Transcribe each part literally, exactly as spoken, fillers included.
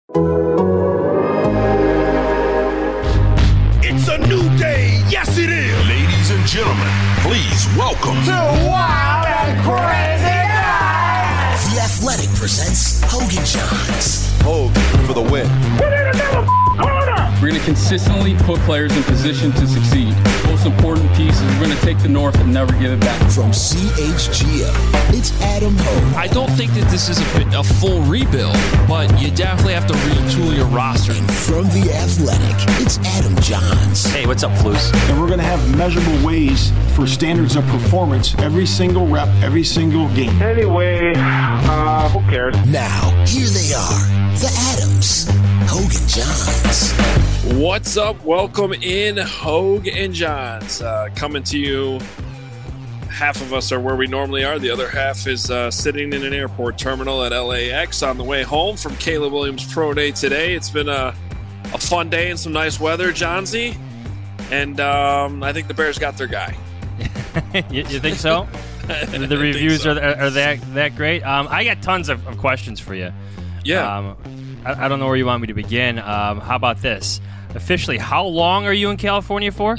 It's a new day. Yes, it is. Ladies and gentlemen, please welcome to Wild and Crazy Guys. The Athletic presents Hogan Johns. Hogan for the win. Put in another corner. We're going to consistently put players in position to succeed. Most important piece is we're going to take the North and never give it back. From C H G O, it's Adam Hogue. I don't think that this is a, a full rebuild, but you definitely have to retool your roster. And from The Athletic, it's Adam Johns. Hey, what's up, Flus? And we're going to have measurable ways for standards of performance every single rep, every single game. Anyway, uh, who cares? Now, here they are, the Adams, Hogan Johns. What's up? Welcome in, Hogue and Johns. Uh, coming to you, half of us are where we normally are. The other half is uh, sitting in an airport terminal at L A X on the way home from Caleb Williams Pro Day today. It's been a, a fun day and some nice weather, Johnsy. And um, I think the Bears got their guy. you, you think so? The reviews so. are, are that that great? Um, I got tons of, of questions for you. Yeah. Um, I, I don't know where you want me to begin. Um, how about this? Officially, how long are you in California for?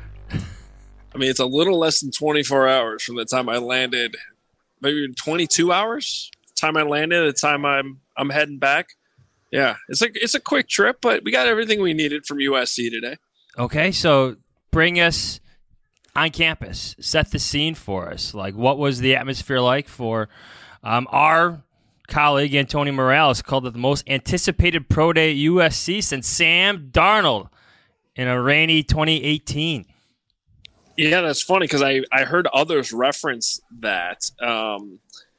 I mean, it's a little less than twenty-four hours from the time I landed. Maybe twenty-two hours. The time I landed, the time I'm I'm heading back. Yeah, it's like it's a quick trip, but we got everything we needed from U S C today. Okay, so bring us on campus. Set the scene for us. Like, what was the atmosphere like for um, our colleague Antonio Morales called it the most anticipated pro day at U S C since Sam Darnold in a rainy twenty eighteen. Yeah, that's funny because I, I heard others reference that um,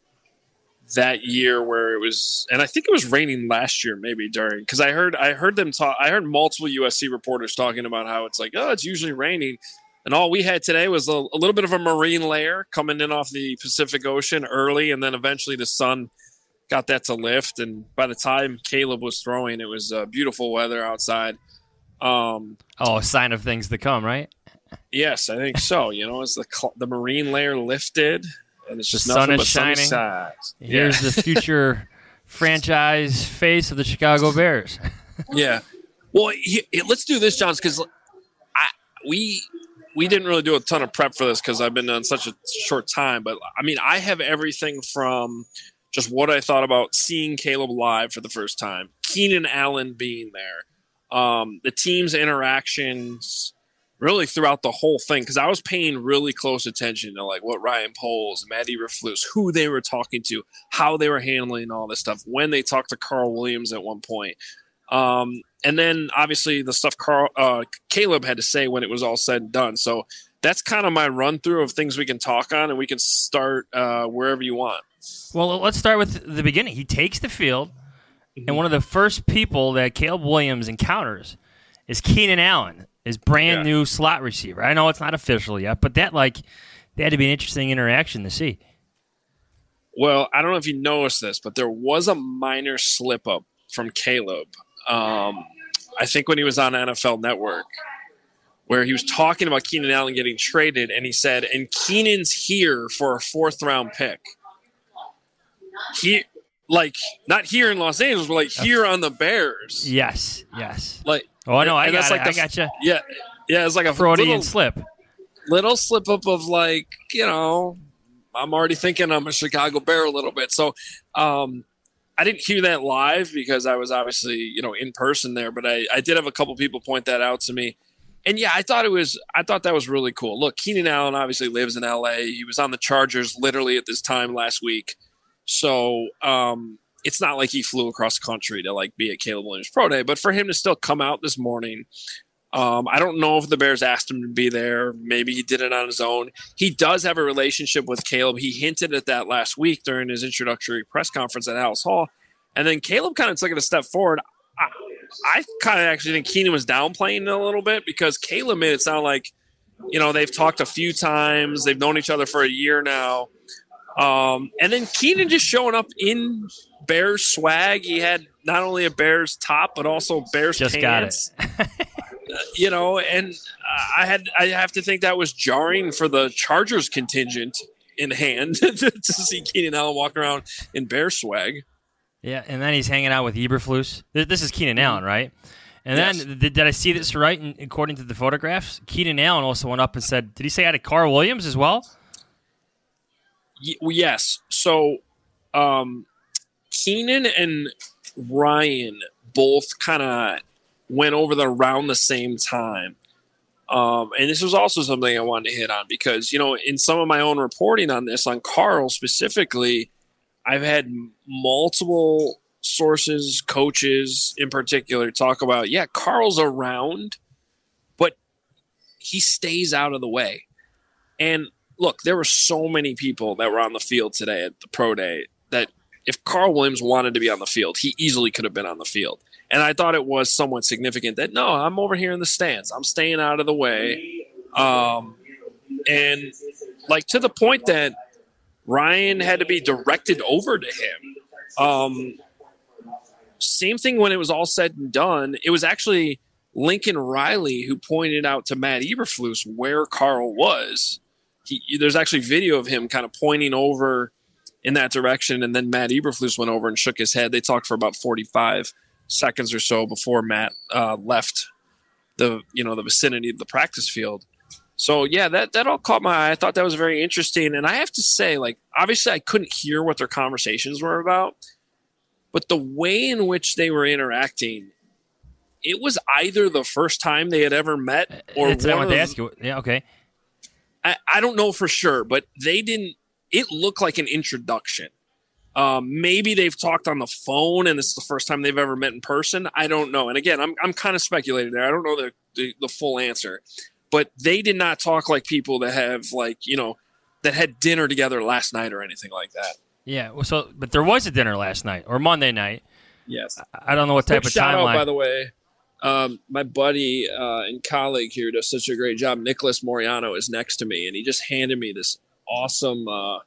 that year where it was, and I think it was raining last year maybe during, because I heard I heard them talk. I heard multiple U S C reporters talking about how it's like, oh, it's usually raining, and all we had today was a, a little bit of a marine layer coming in off the Pacific Ocean early, and then eventually the sun got that to lift, and by the time Caleb was throwing, it was uh, beautiful weather outside. Um, oh, a sign of things to come, right? Yes, I think so. You know, as the the marine layer lifted, and it's just the nothing sun is but sunny shining. sides. Here's yeah. the future franchise face of the Chicago Bears. Yeah. Well, he, he, let's do this, Johns, because I we we didn't really do a ton of prep for this because I've been on such a short time. But I mean, I have everything from just what I thought about seeing Caleb live for the first time, Keenan Allen being there, um, the team's interactions really throughout the whole thing, because I was paying really close attention to like what Ryan Poles, Matt Eberflus, who they were talking to, how they were handling all this stuff, when they talked to Carl Williams at one point. Um, and then obviously the stuff Carl, uh, Caleb had to say when it was all said and done. So that's kind of my run through of things we can talk on, and we can start uh, wherever you want. Well, let's start with the beginning. He takes the field, mm-hmm. and one of the first people that Caleb Williams encounters is Keenan Allen, his brand yeah. new slot receiver. I know it's not official yet, but that like that had to be an interesting interaction to see. Well, I don't know if you noticed this, but there was a minor slip up from Caleb. Um, I think when he was on N F L Network, where he was talking about Keenan Allen getting traded, and he said, "And Keenan's here for a fourth round pick." He, like, not here in Los Angeles, but like here on the Bears. Yes, yes. Like, oh, no, I and got that's it. like the, I got you. Yeah, yeah. It's like a Freudian little, slip. Little slip up of like, you know, I'm already thinking I'm a Chicago Bear a little bit. So, um, I didn't hear that live because I was obviously, you know, in person there, but I, I did have a couple people point that out to me. And yeah, I thought it was, I thought that was really cool. Look, Keenan Allen obviously lives in L A. He was on the Chargers literally at this time last week. So um, it's not like he flew across the country to like be at Caleb Williams Pro Day, but for him to still come out this morning, um, I don't know if the Bears asked him to be there. Maybe he did it on his own. He does have a relationship with Caleb. He hinted at that last week during his introductory press conference at Halas Hall. And then Caleb kind of took it a step forward. I, I kind of actually think Keenan was downplaying it a little bit because Caleb made it sound like, you know, they've talked a few times. They've known each other for a year now. Um, and then Keenan just showing up in Bears swag. He had not only a Bears top, but also Bears just pants. Got it. uh, you know, and uh, I had I have to think that was jarring for the Chargers contingent in hand to see Keenan Allen walk around in Bears swag. Yeah, and then he's hanging out with Eberflus. This is Keenan Allen, right? And yes. then, did, did I see this right? And according to the photographs, Keenan Allen also went up and said, did he say hi to Carl Williams as well? Y- yes. So, um, Keenan and Ryan both kind of went over there around the same time. Um, and this was also something I wanted to hit on because, you know, in some of my own reporting on this, on Carl specifically, I've had multiple sources, coaches in particular, talk about, yeah, Carl's around, but he stays out of the way. And look, there were so many people that were on the field today at the pro day that if Carl Williams wanted to be on the field, he easily could have been on the field. And I thought it was somewhat significant that, no, I'm over here in the stands. I'm staying out of the way. Um, and like to the point that Ryan had to be directed over to him. Um, same thing when it was all said and done. It was actually Lincoln Riley who pointed out to Matt Eberflus where Carl was. He, there's actually video of him kind of pointing over in that direction, and then Matt Eberflus went over and shook his head. They talked for about forty-five seconds or so before Matt uh, left the you know the vicinity of the practice field. So, yeah, that, that all caught my eye. I thought that was very interesting. And I have to say, like, obviously I couldn't hear what their conversations were about, but the way in which they were interacting, it was either the first time they had ever met or That's one what I wanted of to ask you. Yeah, okay. I, I don't know for sure, but they didn't – it looked like an introduction. Um, maybe they've talked on the phone and this is the first time they've ever met in person. I don't know. And, again, I'm I'm kind of speculating there. I don't know the, the, the full answer. But they did not talk like people that have, like, you know, that had dinner together last night or anything like that. Yeah, well, so but there was a dinner last night or Monday night. Yes. I, I don't know what type Quick of shout timeline. out, by the way. Um, my buddy uh, and colleague here does such a great job. Nicholas Moriano is next to me, and he just handed me this awesome uh,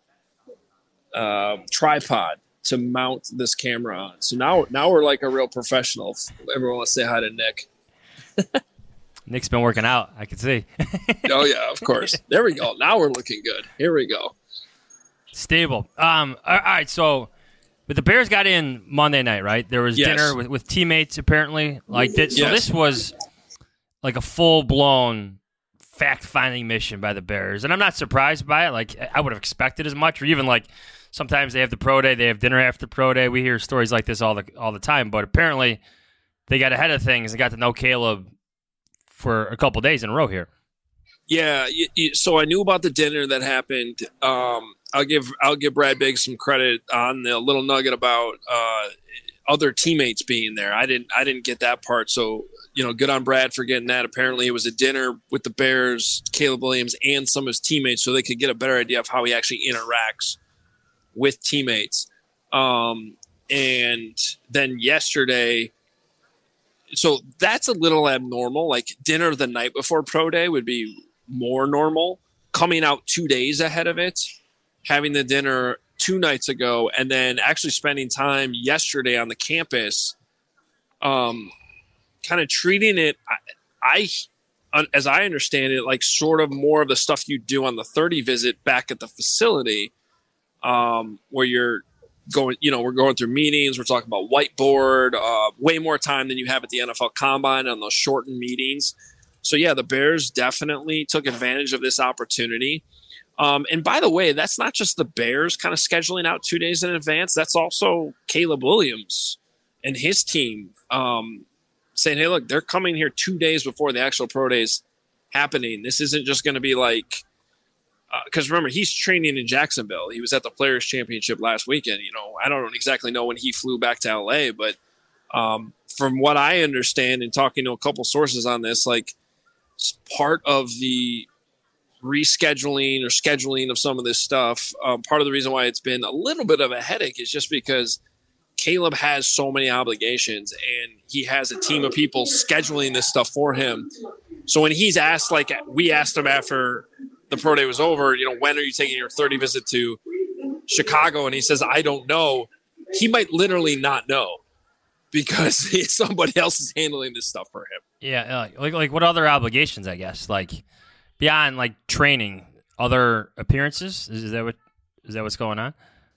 uh, tripod to mount this camera on. So now, now we're like a real professional. Everyone wants to say hi to Nick. Nick's been working out, I can see. Oh, yeah, of course. There we go. Now we're looking good. Here we go. Stable. Um, all right, so but the Bears got in Monday night, right? There was Yes. dinner with, with teammates, apparently. Like this. So Yes. this was like a full-blown fact-finding mission by the Bears. And I'm not surprised by it. Like, I would have expected as much. Or even, like, sometimes they have the pro day, they have dinner after pro day. We hear stories like this all the all the time. But apparently they got ahead of things and got to know Caleb for a couple days in a row here. Yeah, you, you, so I knew about the dinner that happened. Um, I'll give I'll give Brad Biggs some credit on the little nugget about uh, other teammates being there. I didn't I didn't get that part. So, you know, good on Brad for getting that. Apparently, it was a dinner with the Bears, Caleb Williams, and some of his teammates, so they could get a better idea of how he actually interacts with teammates. Um, and then yesterday. So that's a little abnormal. Like dinner the night before pro day would be more normal. Coming out two days ahead of it, having the dinner two nights ago, and then actually spending time yesterday on the campus, um, kind of treating it, I, I, as I understand it, like sort of more of the stuff you do on the thirty visit back at the facility, um, where you're going, you know, we're going through meetings. We're talking about whiteboard, uh, way more time than you have at the N F L Combine on those shortened meetings. So, yeah, the Bears definitely took advantage of this opportunity. Um, and by the way, that's not just the Bears kind of scheduling out two days in advance. That's also Caleb Williams and his team um, saying, hey, look, they're coming here two days before the actual pro days happening. This isn't just going to be like, because uh, remember, he's training in Jacksonville. He was at the Players' Championship last weekend. You know, I don't exactly know when he flew back to L A, but um, from what I understand and talking to a couple sources on this, like part of the rescheduling or scheduling of some of this stuff, um, part of the reason why it's been a little bit of a headache is just because Caleb has so many obligations and he has a team of people scheduling this stuff for him. So when he's asked, like we asked him after the pro day was over, you know, when are you taking your thirty visit to Chicago? And he says, I don't know. He might literally not know because somebody else is handling this stuff for him. Yeah. Like, like what other obligations, I guess, like beyond like training, other appearances? Is that what, is that what's going on?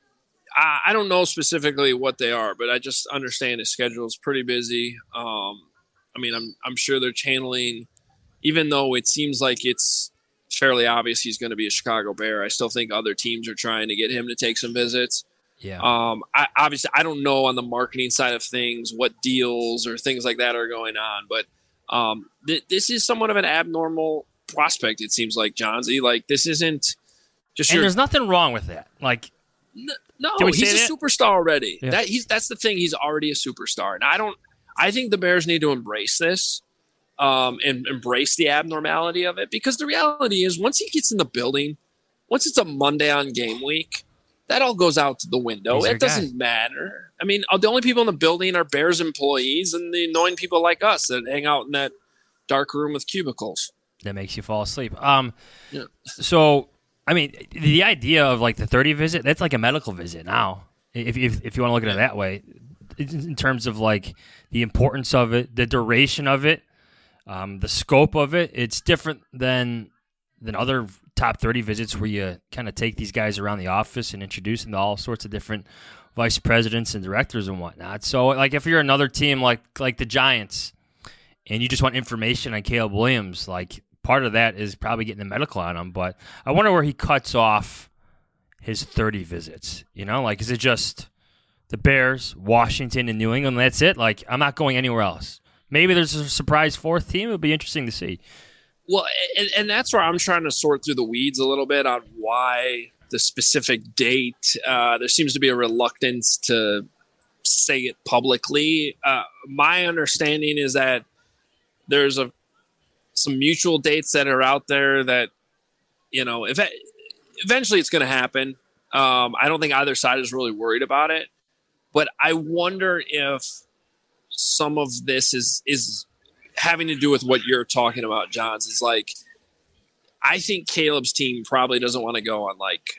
I, I don't know specifically what they are, but I just understand his schedule is pretty busy. Um, I mean, I'm I'm sure they're channeling, even though it seems like it's fairly obvious he's going to be a Chicago Bear. I still think other teams are trying to get him to take some visits. Yeah. Um. I, obviously, I don't know on the marketing side of things what deals or things like that are going on, but um, th- this is somewhat of an abnormal prospect. It seems like Johnsy. Like this isn't just. And your, there's nothing wrong with that. Like. No, no Can we he's say a that? superstar already. Yeah. That he's that's the thing. He's already a superstar, and I don't. I think the Bears need to embrace this, um, and embrace the abnormality of it, because the reality is, once he gets in the building, once it's a Monday on game week, that all goes out to the window. He's your It doesn't guy. matter. I mean, the only people in the building are Bears employees and the annoying people like us that hang out in that dark room with cubicles. That makes you fall asleep. Um. Yeah. So. I mean, the idea of like the thirty visit, that's like a medical visit now. If if, if you want to look at it that way, in terms of like the importance of it, the duration of it, um, the scope of it, it's different than than other top thirty visits where you kind of take these guys around the office and introduce them to all sorts of different vice presidents and directors and whatnot. So like if you're another team like like the Giants and you just want information on Caleb Williams, like part of that is probably getting the medical on him, but I wonder where he cuts off his thirty visits. You know, like, is it just the Bears, Washington, and New England? That's it? Like, I'm not going anywhere else. Maybe there's a surprise fourth team. It would be interesting to see. Well, and, and that's where I'm trying to sort through the weeds a little bit on why the specific date. Uh, there seems to be a reluctance to say it publicly. Uh, my understanding is that there's a some mutual dates that are out there that, you know, if it, eventually it's going to happen. Um, I don't think either side is really worried about it, but I wonder if some of this is, is having to do with what you're talking about, Johns. Is like, I think Caleb's team probably doesn't want to go on like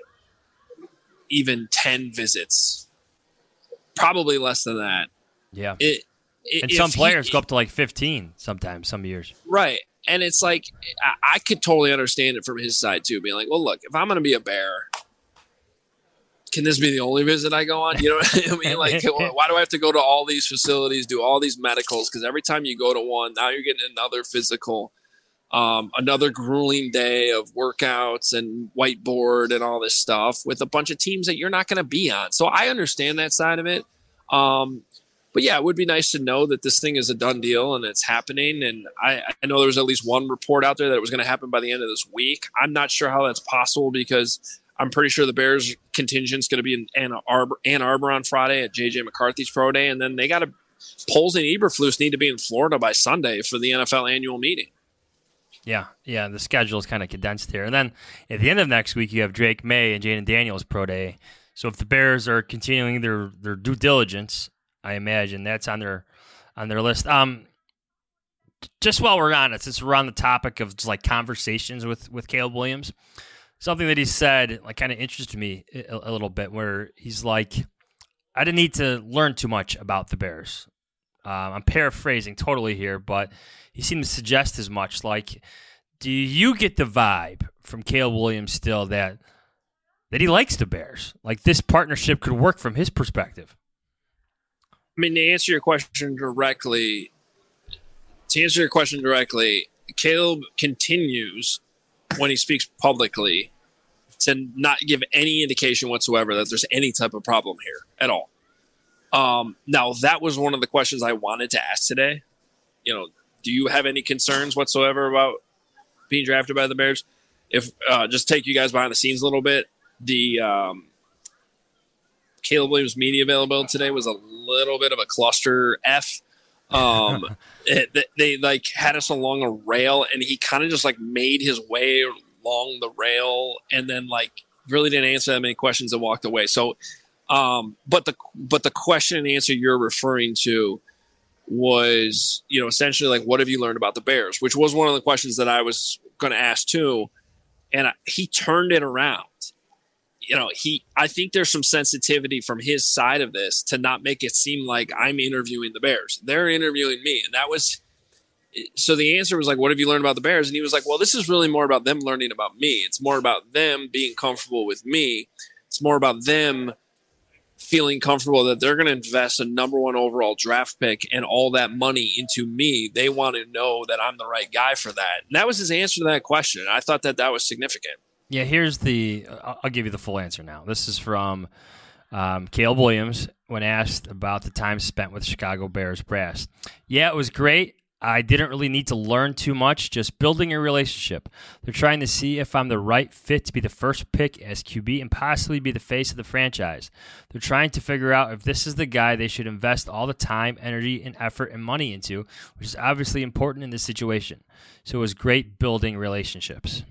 even ten visits, probably less than that. Yeah. It, it, and some if players he, go up to like fifteen sometimes, some years. Right. And it's like, I, I could totally understand it from his side too, being like, well, look, if I'm going to be a Bear, can this be the only visit I go on? You know what I mean? Like, why do I have to go to all these facilities, do all these medicals? Because every time you go to one, now you're getting another physical, um, another grueling day of workouts and whiteboard and all this stuff with a bunch of teams that you're not going to be on. So I understand that side of it. Um, But yeah, it would be nice to know that this thing is a done deal and it's happening. And I, I know there was at least one report out there that it was going to happen by the end of this week. I'm not sure how that's possible because I'm pretty sure the Bears contingent is going to be in Ann Arbor, Ann Arbor on Friday at J J McCarthy's Pro Day. And then they got to, Poles and Eberflus need to be in Florida by Sunday for the N F L annual meeting. Yeah, yeah, the schedule is kind of condensed here. And then at the end of next week, you have Drake May and Jaden Daniels Pro Day. So if the Bears are continuing their, their due diligence, I imagine that's on their on their list. Um, just while we're on it, since we're on the topic of just like conversations with, with Caleb Williams, something that he said like kind of interested me a, a little bit, where he's like, I didn't need to learn too much about the Bears. Um, I'm paraphrasing totally here, but he seemed to suggest as much. Like, do you get the vibe from Caleb Williams still that that he likes the Bears? Like this partnership could work from his perspective. I mean, to answer your question directly, to answer your question directly, Caleb continues when he speaks publicly to not give any indication whatsoever that there's any type of problem here at all. Um, now, that was one of the questions I wanted to ask today. You know, do you have any concerns whatsoever about being drafted by the Bears? If uh, just take you guys behind the scenes a little bit, the um, Caleb Williams media availability today was a little bit of a cluster F. Um, it, they, they like had us along a rail, and he kind of just like made his way along the rail, and then like really didn't answer that many questions and walked away. So, um, but the but the question and answer you're referring to was, you know, essentially like, what have you learned about the Bears? Which was one of the questions that I was going to ask too, and I, he turned it around. You know, he, I think there's some sensitivity from his side of this to not make it seem like I'm interviewing the Bears. They're interviewing me. And that was, so the answer was like, what have you learned about the Bears? And he was like, well, this is really more about them learning about me. It's more about them being comfortable with me. It's more about them feeling comfortable that they're going to invest a number one overall draft pick and all that money into me. They want to know that I'm the right guy for that. And that was his answer to that question. I thought that that was significant. Yeah, here's the – I'll give you the full answer now. This is from um, Caleb Williams when asked about the time spent with Chicago Bears brass. Yeah, it was great. I didn't really need to learn too much, just building a relationship. They're trying to see if I'm the right fit to be the first pick as Q B and possibly be the face of the franchise. They're trying to figure out if this is the guy they should invest all the time, energy, and effort and money into, which is obviously important in this situation. So it was great building relationships.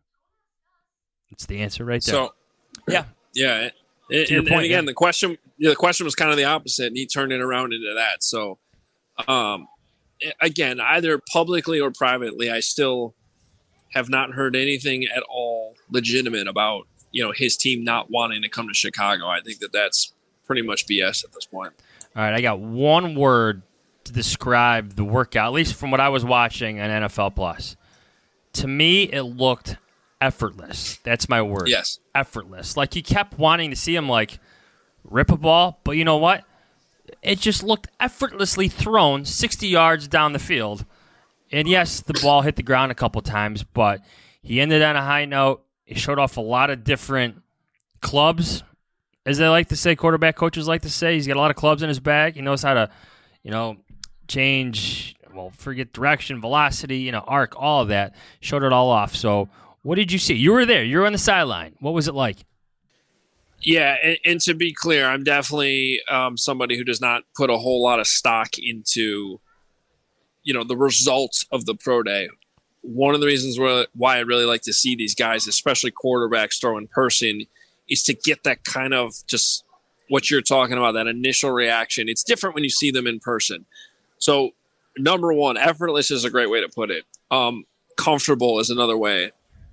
That's the answer right there. So, yeah. Yeah. And, your and, point, and again, yeah. the question the question was kind of the opposite, and he turned it around into that. So, um, again, either publicly or privately, I still have not heard anything at all legitimate about, you know, his team not wanting to come to Chicago. I think that that's pretty much B S at this point. All right, I got one word to describe the workout, at least from what I was watching on N F L Plus. To me, it looked effortless. That's my word. Yes. Effortless. Like, you kept wanting to see him, like, rip a ball, but you know what? It just looked effortlessly thrown sixty yards down the field. And yes, the ball hit the ground a couple times, but he ended on a high note. He showed off a lot of different clubs, as they like to say, quarterback coaches like to say. He's got a lot of clubs in his bag. He knows how to, you know, change, well, forget direction, velocity, you know, arc, all of that. Showed it all off. So what did you see? You were there. You were on the sideline. What was it like? Yeah, and, and to be clear, I'm definitely um, somebody who does not put a whole lot of stock into, you know, the results of the pro day. One of the reasons why I really like to see these guys, especially quarterbacks, throw in person, is to get that kind of just what you're talking about, that initial reaction. It's different when you see them in person. So, number one, effortless is a great way to put it. Um, comfortable is another way.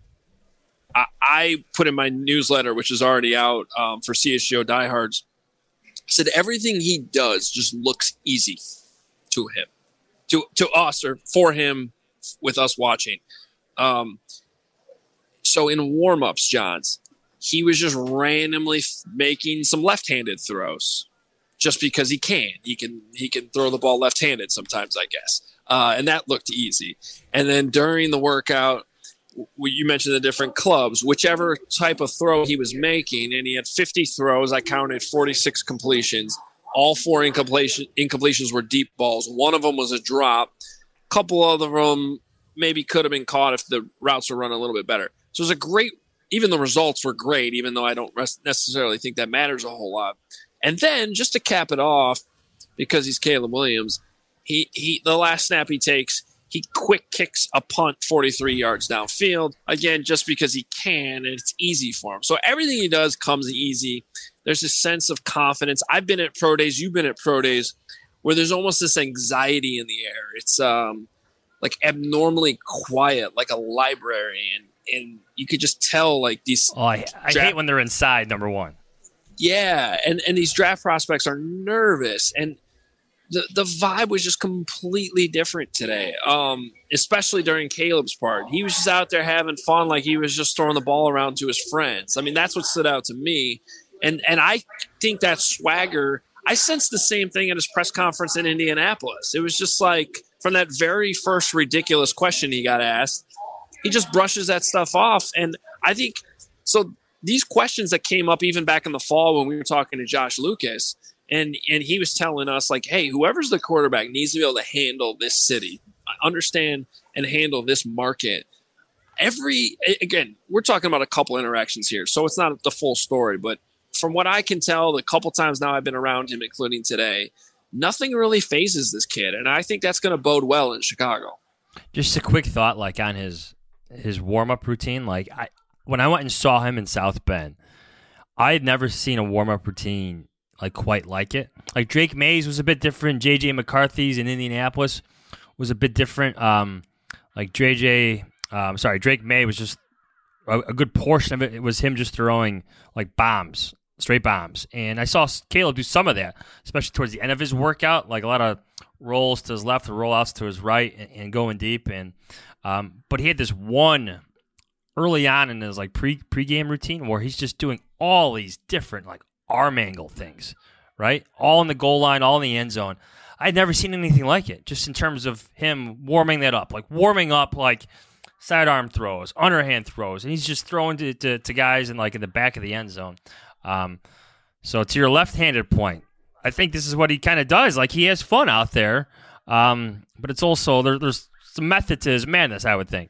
I put in my newsletter, which is already out um, for C S G O diehards, said everything he does just looks easy to him, to to us or for him, with us watching. Um, so in warm-ups, Johns, he was just randomly f- making some left-handed throws, just because he can. He can he can throw the ball left-handed sometimes, I guess, uh, and that looked easy. And then during the workout, you mentioned the different clubs, whichever type of throw he was making, and he had fifty throws. I counted forty-six completions. All four incompletion, incompletions were deep balls. One of them was a drop. A couple of them maybe could have been caught if the routes were run a little bit better. So it was a great – even the results were great, even though I don't necessarily think that matters a whole lot. And then, just to cap it off, because he's Caleb Williams, he, he the last snap he takes – he quick kicks a punt forty-three yards downfield, again, just because he can, and it's easy for him. So everything he does comes easy. There's this sense of confidence. I've been at pro days, you've been at pro days, where there's almost this anxiety in the air. It's um, like abnormally quiet, like a library, and, and you could just tell like these. Oh, I, I draft- hate when they're inside, number one. Yeah, and, and these draft prospects are nervous, and The the vibe was just completely different today, um, especially during Caleb's part. He was just out there having fun, like he was just throwing the ball around to his friends. I mean, that's what stood out to me. And and I think that swagger, I sensed the same thing at his press conference in Indianapolis. It was just like from that very first ridiculous question he got asked, he just brushes that stuff off. And I think – so these questions that came up even back in the fall when we were talking to Josh Lucas – And and he was telling us, like, hey, whoever's the quarterback needs to be able to handle this city, understand and handle this market. Every again, we're talking about a couple interactions here, so it's not the full story. But from what I can tell, the couple times now I've been around him, including today, nothing really phases this kid. And I think that's going to bode well in Chicago. Just a quick thought, like, on his his warm-up routine. Like, I when I went and saw him in South Bend, I had never seen a warm-up routine like quite like it. Like Drake Mays was a bit different. J J McCarthy's in Indianapolis was a bit different. Um, like J J, um, sorry, Drake May was just a, a good portion of it. It was him just throwing like bombs, straight bombs. And I saw Caleb do some of that, especially towards the end of his workout, like a lot of rolls to his left, rollouts to his right, and, and going deep. And um, but he had this one early on in his like pre pregame routine where he's just doing all these different like arm angle things, right? All in the goal line, all in the end zone. I'd never seen anything like it, just in terms of him warming that up, like warming up like sidearm throws, underhand throws, and he's just throwing to, to, to guys in like in the back of the end zone. Um, so to your left-handed point, I think this is what he kind of does. Like he has fun out there, um, but it's also there, there's some method to his madness, I would think.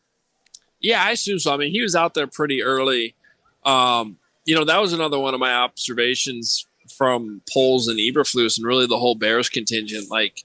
Yeah, I assume so. I mean, he was out there pretty early. Um, you know, that was another one of my observations from Poles and Eberflus and really the whole Bears contingent. Like,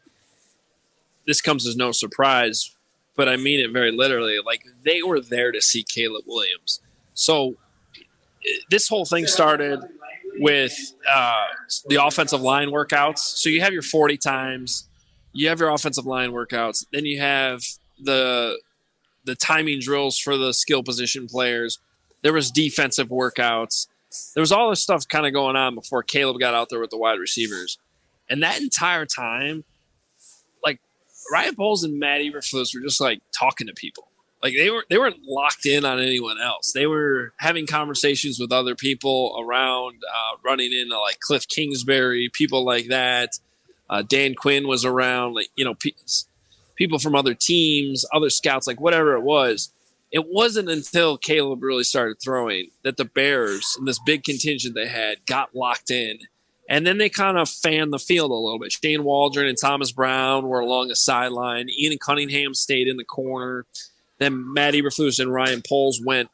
this comes as no surprise, but I mean it very literally. Like, they were there to see Caleb Williams. So this whole thing started with uh, the offensive line workouts. So you have your forty times, you have your offensive line workouts, then you have the the timing drills for the skill position players. There was defensive workouts. There was all this stuff kind of going on before Caleb got out there with the wide receivers. And that entire time, like, Ryan Poles and Matt Eberflus were just, like, talking to people. Like, they, were, they weren't locked in on anyone else. They were having conversations with other people around, uh, running into, like, Cliff Kingsbury, people like that. Uh, Dan Quinn was around, like, you know, pe- people from other teams, other scouts, like, whatever it was. It wasn't until Caleb really started throwing that the Bears and this big contingent they had got locked in. And then they kind of fanned the field a little bit. Shane Waldron and Thomas Brown were along the sideline. Ian Cunningham stayed in the corner. Then Matt Eberflus and Ryan Poles went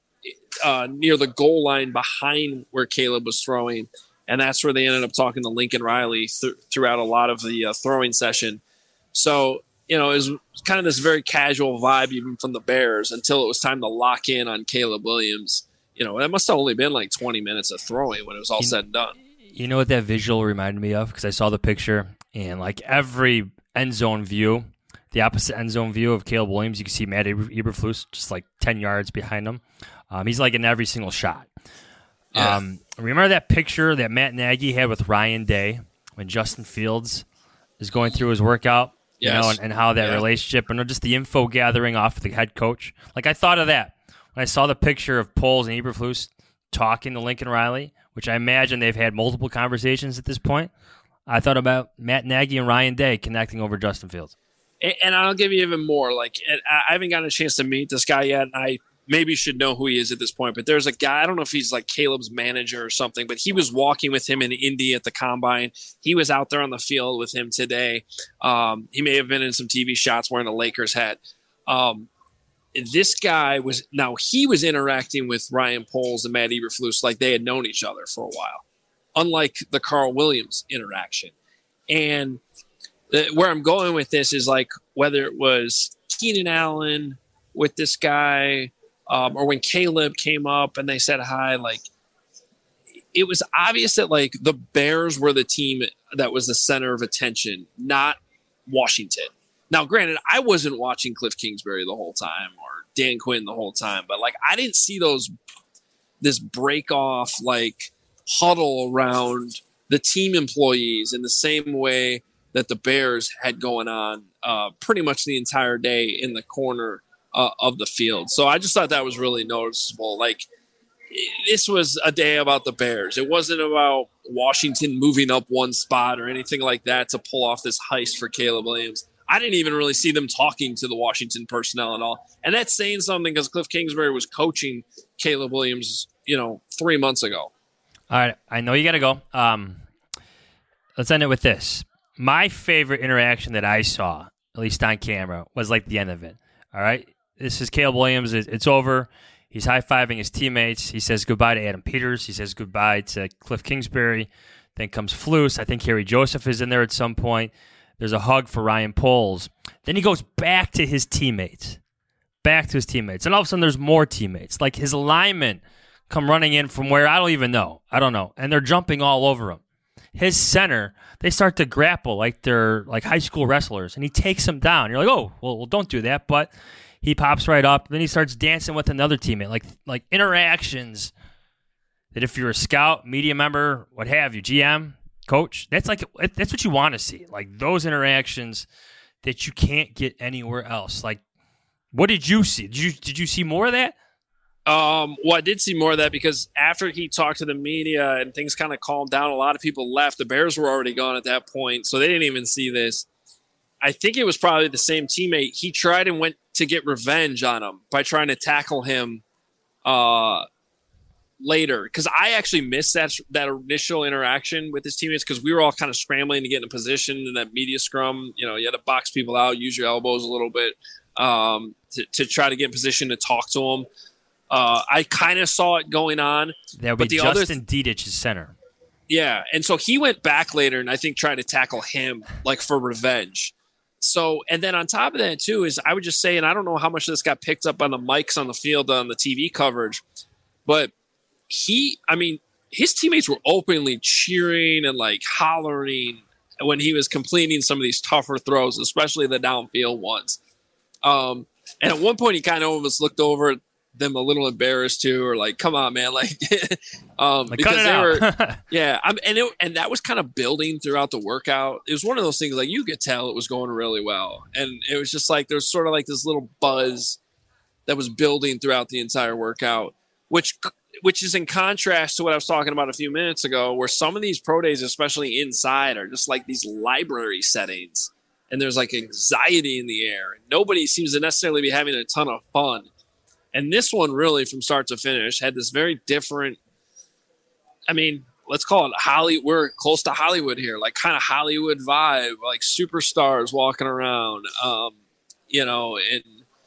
uh, near the goal line behind where Caleb was throwing. And that's where they ended up talking to Lincoln Riley th- throughout a lot of the uh, throwing session. So, you know, it was kind of this very casual vibe even from the Bears until it was time to lock in on Caleb Williams. You know, it must have only been like twenty minutes of throwing when it was all you, said and done. You know what that visual reminded me of? Because I saw the picture, and like every end zone view, the opposite end zone view of Caleb Williams, you can see Matt Eberflus just like ten yards behind him. Um, he's like in every single shot. Yeah. Um, remember that picture that Matt Nagy had with Ryan Day when Justin Fields is going through his workout? You yes. know, and, and how that yeah. relationship and just the info gathering off the head coach. Like, I thought of that when I saw the picture of Poles and Eberflus talking to Lincoln Riley, which I imagine they've had multiple conversations at this point. I thought about Matt Nagy and Ryan Day connecting over Justin Fields. And, and I'll give you even more. Like, I haven't gotten a chance to meet this guy yet, and I maybe should know who he is at this point. But there's a guy, I don't know if he's like Caleb's manager or something, but he was walking with him in Indy at the Combine. He was out there on the field with him today. Um, he may have been in some T V shots wearing a Lakers hat. Um, this guy was, now he was interacting with Ryan Poles and Matt Eberflus like they had known each other for a while, unlike the Carl Williams interaction. And the, where I'm going with this is like whether it was Keenan Allen with this guy, Um, or when Caleb came up and they said hi, like it was obvious that like the Bears were the team that was the center of attention, not Washington. Now, granted, I wasn't watching Cliff Kingsbury the whole time or Dan Quinn the whole time, but like I didn't see those this break off like huddle around the team employees in the same way that the Bears had going on uh, pretty much the entire day in the corner Uh, of the field. So I just thought that was really noticeable. Like, this was a day about the Bears. It wasn't about Washington moving up one spot or anything like that to pull off this heist for Caleb Williams. I didn't even really see them talking to the Washington personnel at all. And that's saying something because Cliff Kingsbury was coaching Caleb Williams, you know, three months ago. All right. I know you got to go. Um, let's end it with this. My favorite interaction that I saw, at least on camera, was like the end of it. All right. This is Caleb Williams. It's over. He's high-fiving his teammates. He says goodbye to Adam Peters. He says goodbye to Cliff Kingsbury. Then comes Flus. I think Harry Joseph is in there at some point. There's a hug for Ryan Poles. Then he goes back to his teammates. Back to his teammates. And all of a sudden there's more teammates. Like his linemen come running in from where I don't even know. I don't know. And they're jumping all over him. His center, they start to grapple like they're like high school wrestlers. And he takes them down. You're like, oh, well, well don't do that. But he pops right up. Then he starts dancing with another teammate. Like like interactions that if you're a scout, media member, what have you, G M, coach, that's like that's what you want to see. Like those interactions that you can't get anywhere else. Like, what did you see? Did you did you see more of that? Um, well, I did see more of that because after he talked to the media and things kind of calmed down, a lot of people left. The Bears were already gone at that point, so they didn't even see this. I think it was probably the same teammate. He tried and went to get revenge on him by trying to tackle him uh, later. Because I actually missed that that initial interaction with his teammates because we were all kind of scrambling to get in a position in that media scrum. You know, you had to box people out, use your elbows a little bit um, to, to try to get in position to talk to him. Uh, I kind of saw it going on. That would be the Justin other th- Dedich, center. Yeah, and so he went back later and I think tried to tackle him like for revenge. So, and then on top of that too is I would just say, and I don't know how much of this got picked up on the mics on the field on the T V coverage, but he, I mean, his teammates were openly cheering and like hollering when he was completing some of these tougher throws, especially the downfield ones. Um, and at one point he kind of almost looked over them a little embarrassed too, or like, come on, man, like, um, like because cut it they out. were, yeah, I'm, and it, and that was kind of building throughout the workout. It was one of those things like you could tell it was going really well, and it was just like there was sort of like this little buzz that was building throughout the entire workout, which which is in contrast to what I was talking about a few minutes ago, where some of these pro days, especially inside, are just like these library settings, and there's like anxiety in the air, and nobody seems to necessarily be having a ton of fun. And this one really, from start to finish, had this very different, I mean, let's call it Hollywood. We're close to Hollywood here, like kind of Hollywood vibe, like superstars walking around, um, you know, and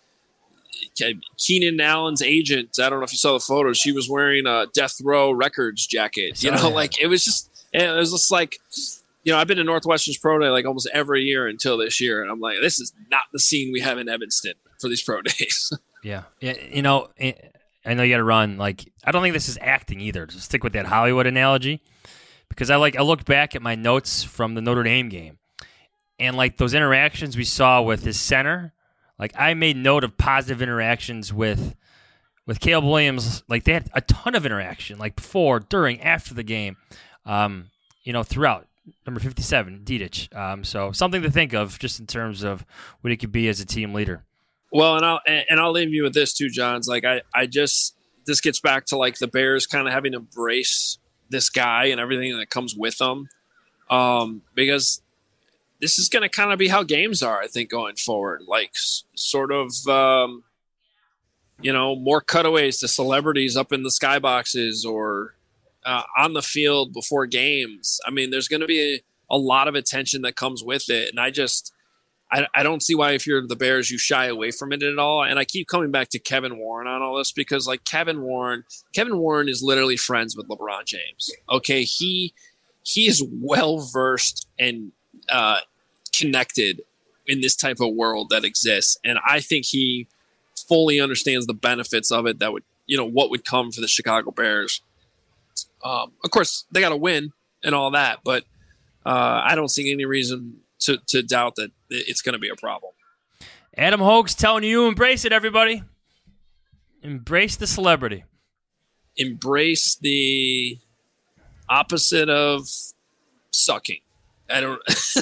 Keenan Allen's agent, I don't know if you saw the photo, she was wearing a Death Row Records jacket, you know, like it was just, it was just like, you know, I've been to Northwestern's pro day like almost every year until this year. And I'm like, this is not the scene we have in Evanston for these pro days. Yeah. yeah, you know, I know you got to run. Like, I don't think this is acting either. To stick with that Hollywood analogy, because I like I looked back at my notes from the Notre Dame game, and like those interactions we saw with his center, like I made note of positive interactions with with Caleb Williams. Like they had a ton of interaction, like before, during, after the game, um, you know, throughout. Number fifty-seven, Dedich. Um, so something to think of just in terms of what he could be as a team leader. Well, and I'll and I'll leave you with this too, Johns. Like I, I just this gets back to like the Bears kind of having to embrace this guy and everything that comes with him, um, because this is going to kind of be how games are, I think, going forward. Like s- sort of, um, you know, more cutaways to celebrities up in the skyboxes or uh, on the field before games. I mean, there's going to be a, a lot of attention that comes with it, and I just. I, I don't see why if you're the Bears you shy away from it at all. And I keep coming back to Kevin Warren on all this because like Kevin Warren, Kevin Warren is literally friends with LeBron James. Okay, he he is well versed and uh, connected in this type of world that exists, and I think he fully understands the benefits of it. That would you know what would come for the Chicago Bears. Um, of course, they got to win and all that, but uh, I don't see any reason to to doubt that it's going to be a problem. Adam Hoge's telling you, embrace it, everybody. Embrace the celebrity. Embrace the opposite of sucking. I don't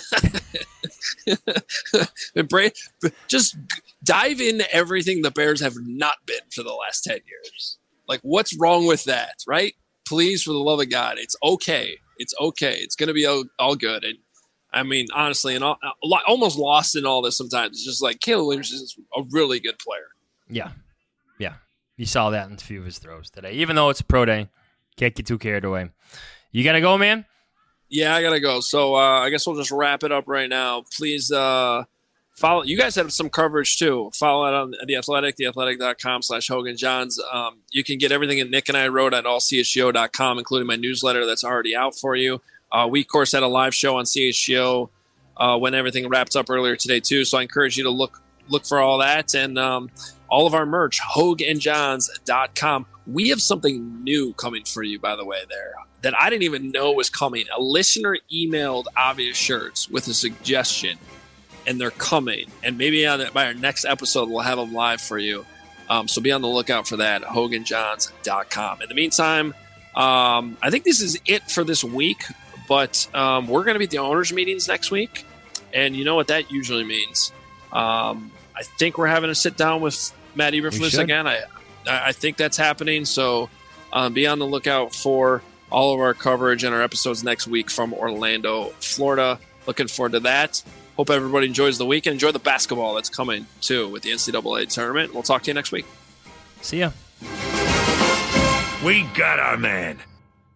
embrace. Just dive into everything the Bears have not been for the last ten years. Like, what's wrong with that, right? Please, for the love of God, it's okay. It's okay. It's going to be all, all good. And I mean, honestly, and all, almost lost in all this sometimes. It's just like Caleb Williams is a really good player. Yeah. Yeah. You saw that in a few of his throws today. Even though it's a pro day, can't get too carried away. You got to go, man? Yeah, I got to go. So uh, I guess we'll just wrap it up right now. Please uh, follow. You guys have some coverage, too. Follow it on The Athletic, theathletic.com slash Hogan Johns. Um, you can get everything that Nick and I wrote at all c h g o dot com, including my newsletter that's already out for you. Uh, we, of course, had a live show on C H G O uh, when everything wrapped up earlier today, too. So I encourage you to look look for all that. And um, all of our merch, hogue and johns dot com. We have something new coming for you, by the way, there, that I didn't even know was coming. A listener emailed Obvious Shirts with a suggestion, and they're coming. And maybe on the, by our next episode, we'll have them live for you. Um, so be on the lookout for that, hogue and johns dot com. In the meantime, um, I think this is it for this week. But um, we're going to be at the owners' meetings next week, and you know what that usually means. Um, I think we're having a sit down with Matt Eberflus again. I I, I think that's happening. So um, be on the lookout for all of our coverage and our episodes next week from Orlando, Florida. Looking forward to that. Hope everybody enjoys the weekend. Enjoy the basketball that's coming, too, with the N C double A tournament. We'll talk to you next week. See ya. We got our man.